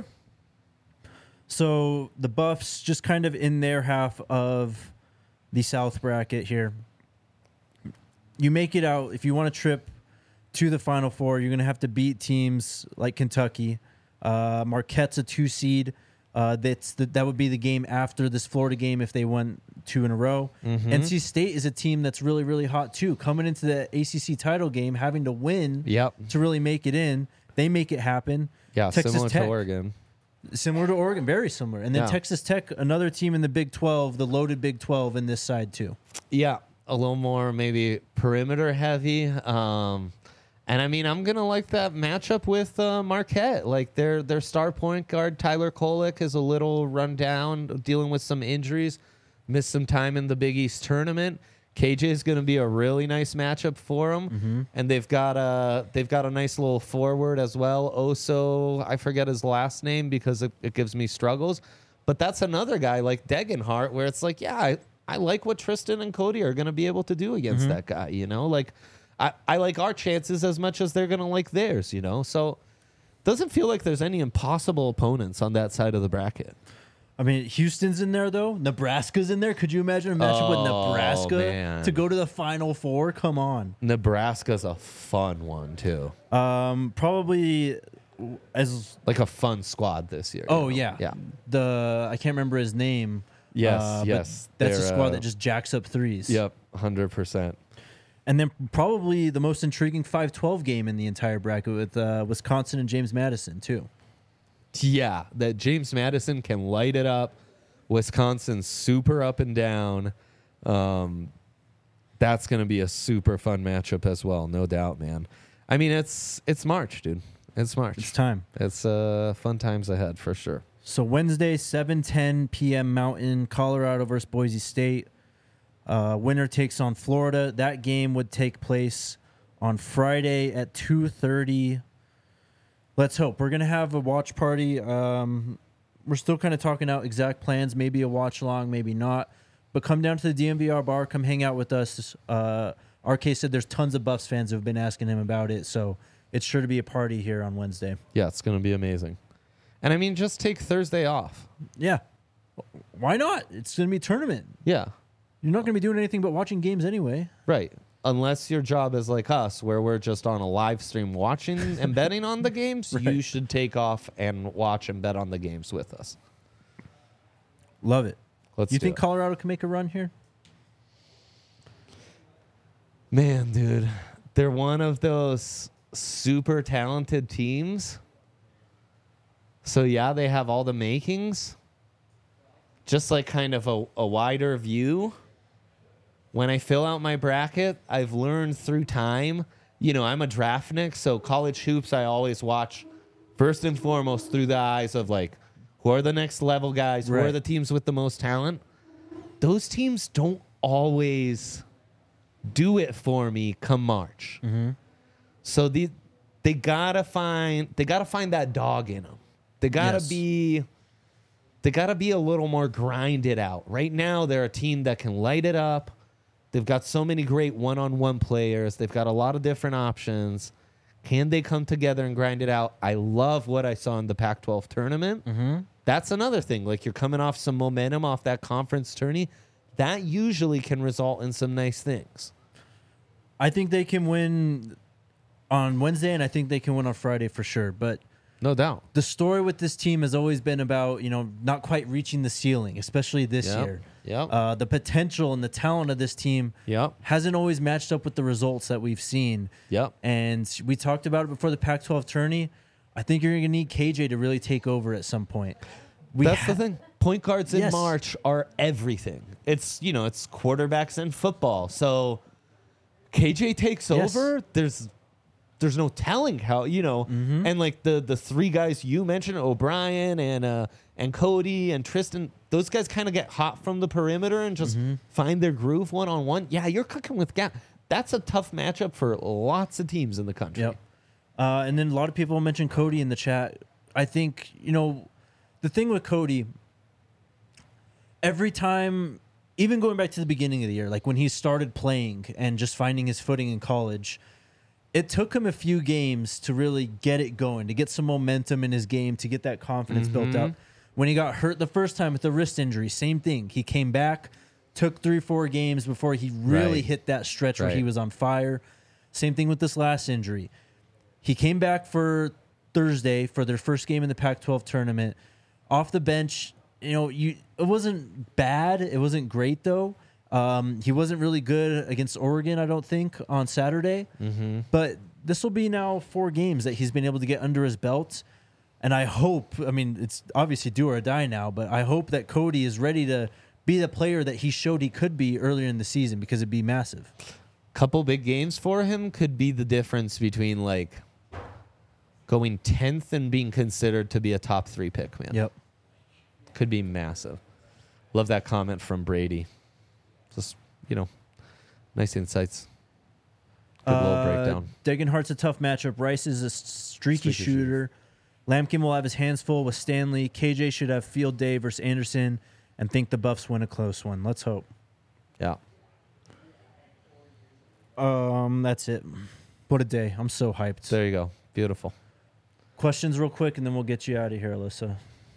So the Buffs just kind of in their half of the South bracket here. You make it out. If you want to trip to the Final Four, you're going to have to beat teams like Kentucky. Marquette's a 2 seed. That would be the game after this Florida game if they won 2 in a row. NC State is a team that's really, really hot too. Coming into the ACC title game, having to win to really make it in. They make it happen. Yeah, Texas similar Tech, to Oregon. Similar to Oregon, very similar. And then Yeah. Texas Tech, another team in the Big 12, the loaded Big 12 in this side too. Yeah, a little more maybe perimeter heavy. And I mean, I'm gonna like that matchup with Marquette. Like their star point guard Tyler Kolek is a little run down, dealing with some injuries, missed some time in the Big East tournament. KJ is gonna be a really nice matchup for him, and they've got a nice little forward as well. Oso, I forget his last name because it gives me struggles, but that's another guy like Degenhart where it's like, yeah, I like what Tristan and Cody are gonna be able to do against that guy. Like. I like our chances as much as they're going to like theirs, So doesn't feel like there's any impossible opponents on that side of the bracket. I mean, Houston's in there, though. Nebraska's in there. Could you imagine a matchup with Nebraska man. to go to the Final Four? Come on. Nebraska's a fun one, too. Probably as... Like a fun squad this year. Oh, yeah. Yeah. I can't remember his name. Yes, but yes. That's a They're, squad that just jacks up threes. Yep, 100%. And then probably the most intriguing 5-12 game in the entire bracket with Wisconsin and James Madison, too. Yeah, that James Madison can light it up. Wisconsin's super up and down. That's going to be a super fun matchup as well, no doubt, man. I mean, it's March, dude. It's March. It's time. It's fun times ahead for sure. So Wednesday, 7:10 p.m. Mountain, Colorado versus Boise State. Winner takes on Florida. That game would take place on Friday at 2:30. Let's hope. We're going to have a watch party. We're still kind of talking out exact plans, maybe a watch along, maybe not. But come down to the DMVR bar, come hang out with us. RK said there's tons of Buffs fans who have been asking him about it, so it's sure to be a party here on Wednesday. Yeah, it's going to be amazing. And I mean, just take Thursday off. Yeah. Why not? It's going to be a tournament. Yeah. You're not going to be doing anything but watching games anyway. Right. Unless your job is like us, where we're just on a live stream watching and betting on the games, Right. You should take off and watch and bet on the games with us. Love it. Let's You do think it. Colorado can make a run here? Man, dude, they're one of those super talented teams. So, yeah, they have all the makings. Just like kind of a wider view. When I fill out my bracket, I've learned through time I'm a draftnik, so college hoops I always watch first and foremost through the eyes of like, who are the next level guys? Who are Right. the teams with the most talent? Those teams don't always do it for me come March. So they gotta find that dog in them. They gotta Yes. be a little more grinded out. Right now, they're a team that can light it up. They've got so many great one-on-one players. They've got a lot of different options. Can they come together and grind it out? I love what I saw in the Pac-12 tournament. That's another thing. Like, you're coming off some momentum off that conference tourney. That usually can result in some nice things. I think they can win on Wednesday, and I think they can win on Friday for sure. But No doubt. the story with this team has always been about, not quite reaching the ceiling, especially this year. Yep. The potential and the talent of this team Yep. hasn't always matched up with the results that we've seen. Yep. And we talked about it before the Pac-12 tourney. I think you're going to need KJ to really take over at some point. That's the thing. Point guards in Yes. March are everything. It's quarterbacks and football. So KJ takes Yes. over. There's no telling how, and like the three guys you mentioned, O'Brien and Cody and Tristan, those guys kind of get hot from the perimeter and just find their groove one-on-one. Yeah, you're cooking with gas. That's a tough matchup for lots of teams in the country. Yep. And then a lot of people mentioned Cody in the chat. I think, the thing with Cody, every time, even going back to the beginning of the year, like when he started playing and just finding his footing in college, it took him a few games to really get it going, to get some momentum in his game, to get that confidence built up. When he got hurt the first time with the wrist injury, same thing. He came back, took 3-4 games before he really Right. hit that stretch where he Right. was on fire. Same thing with this last injury. He came back for Thursday for their first game in the Pac-12 tournament. Off the bench, it wasn't bad. It wasn't great, though. He wasn't really good against Oregon, I don't think, on Saturday. But this will be now 4 games that he's been able to get under his belt. And I hope, it's obviously do or die now, but I hope that Cody is ready to be the player that he showed he could be earlier in the season, because it'd be massive. Couple big games for him could be the difference between like going 10th and being considered to be a top 3 pick, man. Yep. Could be massive. Love that comment from Brady. Just, nice insights. Good little breakdown. Degenhardt's a tough matchup. Rice is a streaky shooter. Lampkin will have his hands full with Stanley. KJ should have field day versus Anderson, and think the Buffs win a close one. Let's hope. Yeah. That's it. What a day. I'm so hyped. There you go. Beautiful. Questions real quick, and then we'll get you out of here, Alyssa.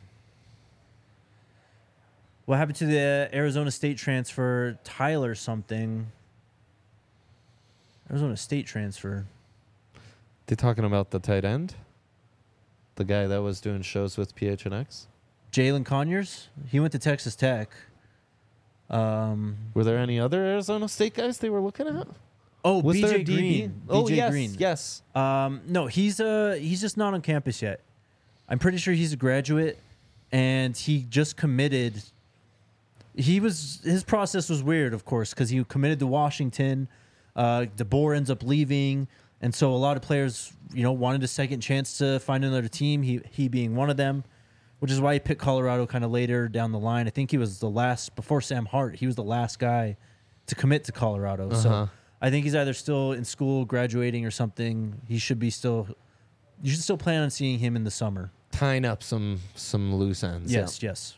What happened to the Arizona State transfer, Tyler something? Arizona State transfer. They talking about the tight end? The guy that was doing shows with PHNX? Jalen Conyers. He went to Texas Tech. Were there any other Arizona State guys they were looking at? Oh, Was there a BJ DB? Green. Oh, BJ yes, Green. yes. No, he's just not on campus yet. I'm pretty sure he's a graduate, and he just committed. His process was weird, of course, because he committed to Washington. DeBoer ends up leaving, and so a lot of players, wanted a second chance to find another team. He being one of them, which is why he picked Colorado kind of later down the line. I think he was the last before Sam Hart. He was the last guy to commit to Colorado. So I think he's either still in school, graduating, or something. He should be still. You should still plan on seeing him in the summer. Tying up some loose ends. Yes, yes.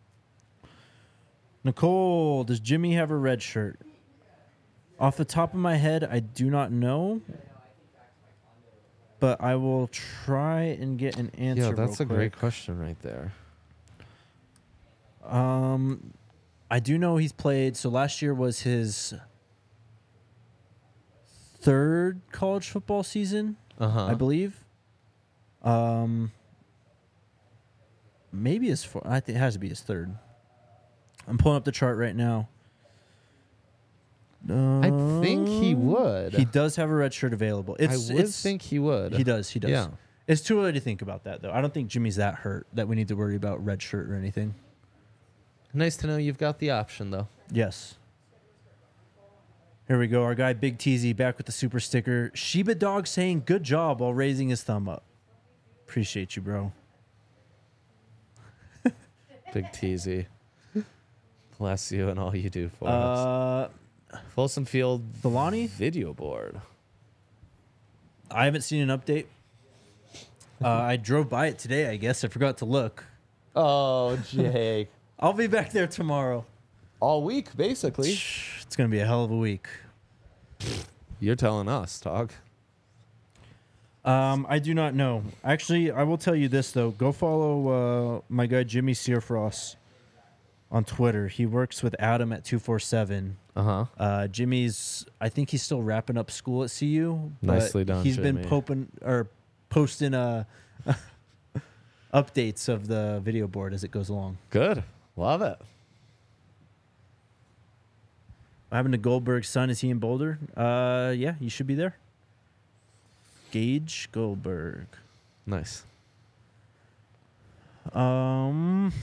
Nicole, does Jimmy have a red shirt? Off the top of my head, I do not know. But I will try and get an answer. Yeah, that's real a great quick. question right there. I do know he's played. So last year was his 3rd college football season, I believe. Maybe his 4th. I think it has to be his 3rd. I'm pulling up the chart right now. I think he would. He does have a red shirt available. I would think he would. He does. He does. Yeah. It's too early to think about that, though. I don't think Jimmy's that hurt that we need to worry about red shirt or anything. Nice to know you've got the option, though. Yes. Here we go. Our guy Big TZ back with the super sticker. Shiba Dog saying good job while raising his thumb up. Appreciate you, bro. Big TZ. Bless you and all you do for us. Folsom Field Delani? video board. I haven't seen an update. I drove by it today, I guess. I forgot to look. Oh, Jake. I'll be back there tomorrow. All week, basically. It's going to be a hell of a week. You're telling us, dog. I do not know. Actually, I will tell you this, though. Go follow my guy Jimmy Searfrost on Twitter. He works with Adam at 247. Uh-huh. Jimmy's, I think he's still wrapping up school at CU. but Nicely done, He's been Jimmy. posting updates of the video board as it goes along. Good. Love it. What happened to Goldberg's son? Is he in Boulder? Yeah, you should be there. Gage Goldberg. Nice. Go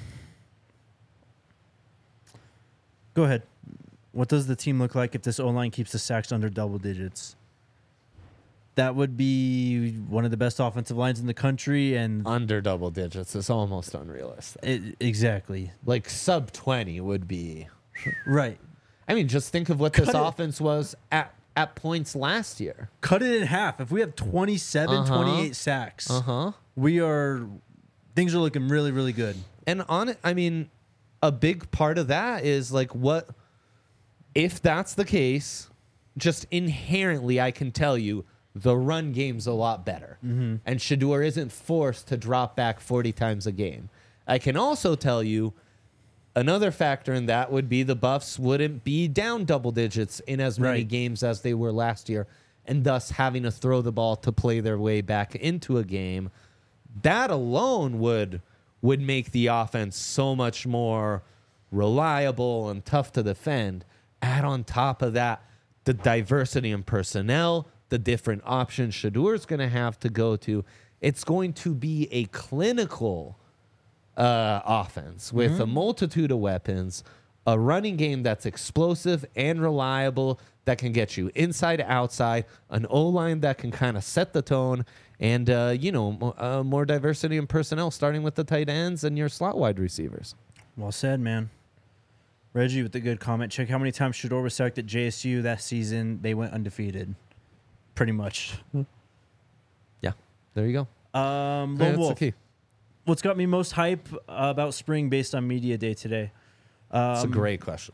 ahead. What does the team look like if this O-line keeps the sacks under double digits? That would be one of the best offensive lines in the country, and Under double digits is almost unrealistic. exactly Like sub 20 would be. right. I mean, just think of what this Cut it. offense was at points last year. Cut it in half. If we have 27, 28 sacks, things are looking really, really good. And on it, I mean, a big part of that is like what if that's the case, just inherently I can tell you the run game's a lot better. And Shador isn't forced to drop back 40 times a game. I can also tell you another factor in that would be the Buffs wouldn't be down double digits in as many Right. games as they were last year, and thus having to throw the ball to play their way back into a game. That alone would make the offense so much more reliable and tough to defend. Add on top of that the diversity in personnel, the different options Shador's going to have to go to. It's going to be a clinical offense with a multitude of weapons, a running game that's explosive and reliable that can get you inside, outside, an O-line that can kind of set the tone, and, more diversity in personnel, starting with the tight ends and your slot wide receivers. Well said, man. Reggie with the good comment. Check how many times Shador was sacked at JSU that season. They went undefeated. Pretty much. Yeah, there you go. Lone That's Wolf. the key. What's got me most hype about spring based on media day today? It's a great question.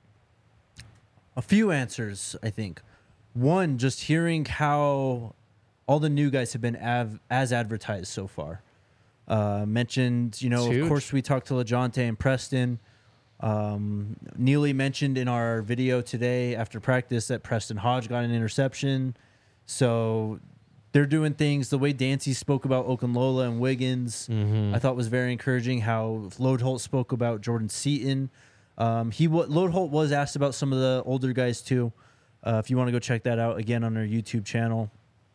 A few answers, I think. One, just hearing how all the new guys have been as advertised so far. Mentioned, It's of huge. course, we talked to LeJohntay and Preston. Neely mentioned in our video today after practice that Preston Hodge got an interception. So they're doing things. The way Dancy spoke about Okunlola and Wiggins, I thought was very encouraging. How Lodeholt spoke about Jordan Seaton. Lodeholt was asked about some of the older guys too. If you want to go check that out again on our YouTube channel.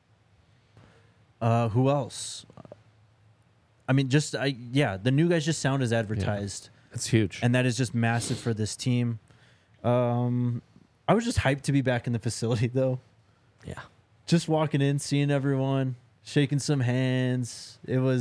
Who else? I mean, the new guys just sound as advertised. It's huge. And that is just massive for this team. I was just hyped to be back in the facility, though. Yeah. Just walking in, seeing everyone, shaking some hands. It was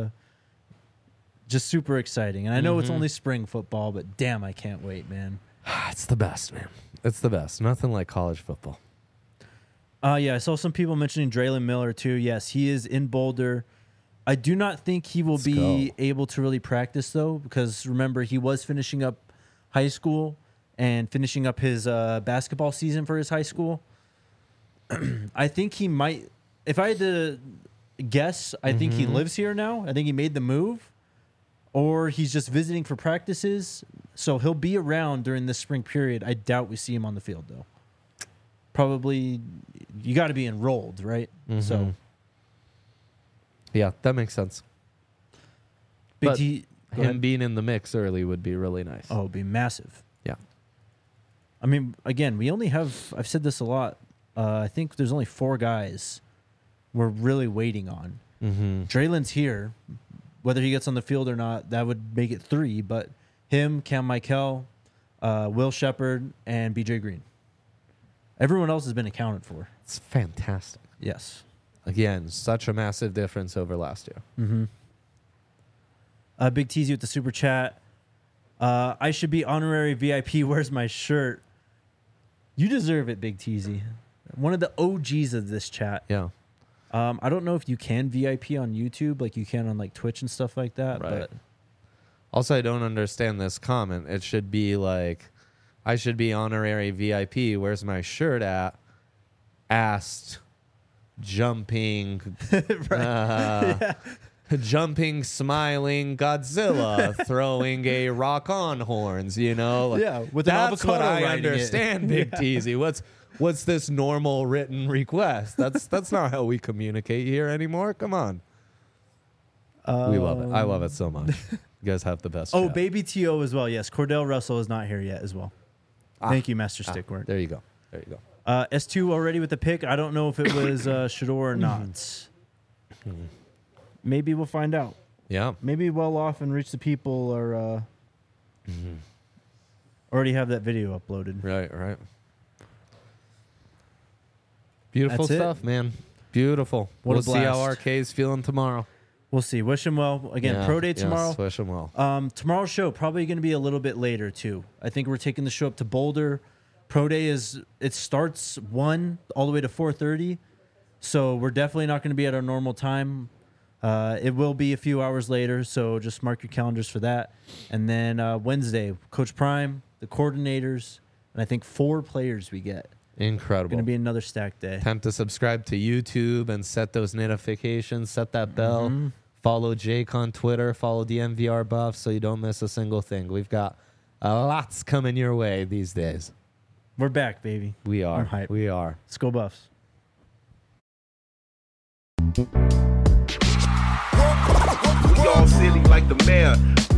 just super exciting. And I know it's only spring football, but damn, I can't wait, man. It's the best, man. It's the best. Nothing like college football. Yeah, I saw some people mentioning Draylon Miller, too. Yes, he is in Boulder. I do not think he will be able to really practice, though, because remember, he was finishing up high school and finishing up his basketball season for his high school. I think he might, if I had to guess, I think he lives here now. I think he made the move, or he's just visiting for practices. So he'll be around during this spring period. I doubt we see him on the field, though. Probably, you got to be enrolled, right? So. Yeah, that makes sense. Big But T, go Him ahead. being in the mix early would be really nice. Oh, it'd be massive. Yeah. I mean, again, we only have, I've said this a lot. I think there's only 4 guys we're really waiting on. Draylon's here. Whether he gets on the field or not, that would make it 3. But him, Cam Michael, Will Shepard, and BJ Green. Everyone else has been accounted for. It's fantastic. Yes. Again, such a massive difference over last year. Big Teasy with the super chat. I should be honorary VIP. Where's my shirt? You deserve it, Big Teasy. One of the OGs of this chat. Yeah. I don't know if you can VIP on YouTube like you can on like Twitch and stuff like that. Right. But Also, I don't understand this comment. It should be like, I should be honorary VIP. Where's my shirt at? Asked, jumping, jumping, smiling Godzilla, throwing a rock on horns. You know, Like, Yeah, with an that's what avocado I riding it. understand. Big Teasy. What's this normal written request? That's not how we communicate here anymore. Come on. We love it. I love it so much. You guys have the best. Oh, chat. Baby T.O. as well. Yes, Cordell Russell is not here yet as well. Thank you, Master Stickwork. There you go. There you go. S2 already with the pick. I don't know if it was Shador or not. Maybe we'll find out. Yeah. Maybe Well Off and Reach the People are already have that video uploaded. Right. Beautiful That's it. stuff, man. Beautiful. What a We'll see how blast. RK's feeling tomorrow. We'll see. Wish him well. Again, Yeah, Pro Day yes, tomorrow. wish him well. Tomorrow's show probably going to be a little bit later too. I think we're taking the show up to Boulder. Pro Day it starts 1 all the way to 4:30, so we're definitely not going to be at our normal time. It will be a few hours later, so just mark your calendars for that. And then Wednesday, Coach Prime, the coordinators, and I think 4 players we get. Incredible. Going to be another stack day. Time to subscribe to YouTube and set those notifications, set that bell. Mm-hmm. Follow Jake on Twitter. Follow the MVR Buff so you don't miss a single thing. We've got lots coming your way these days. We're back, baby. We are. I'm hyped. We are. Let's go Buffs. We all silly like the mayor.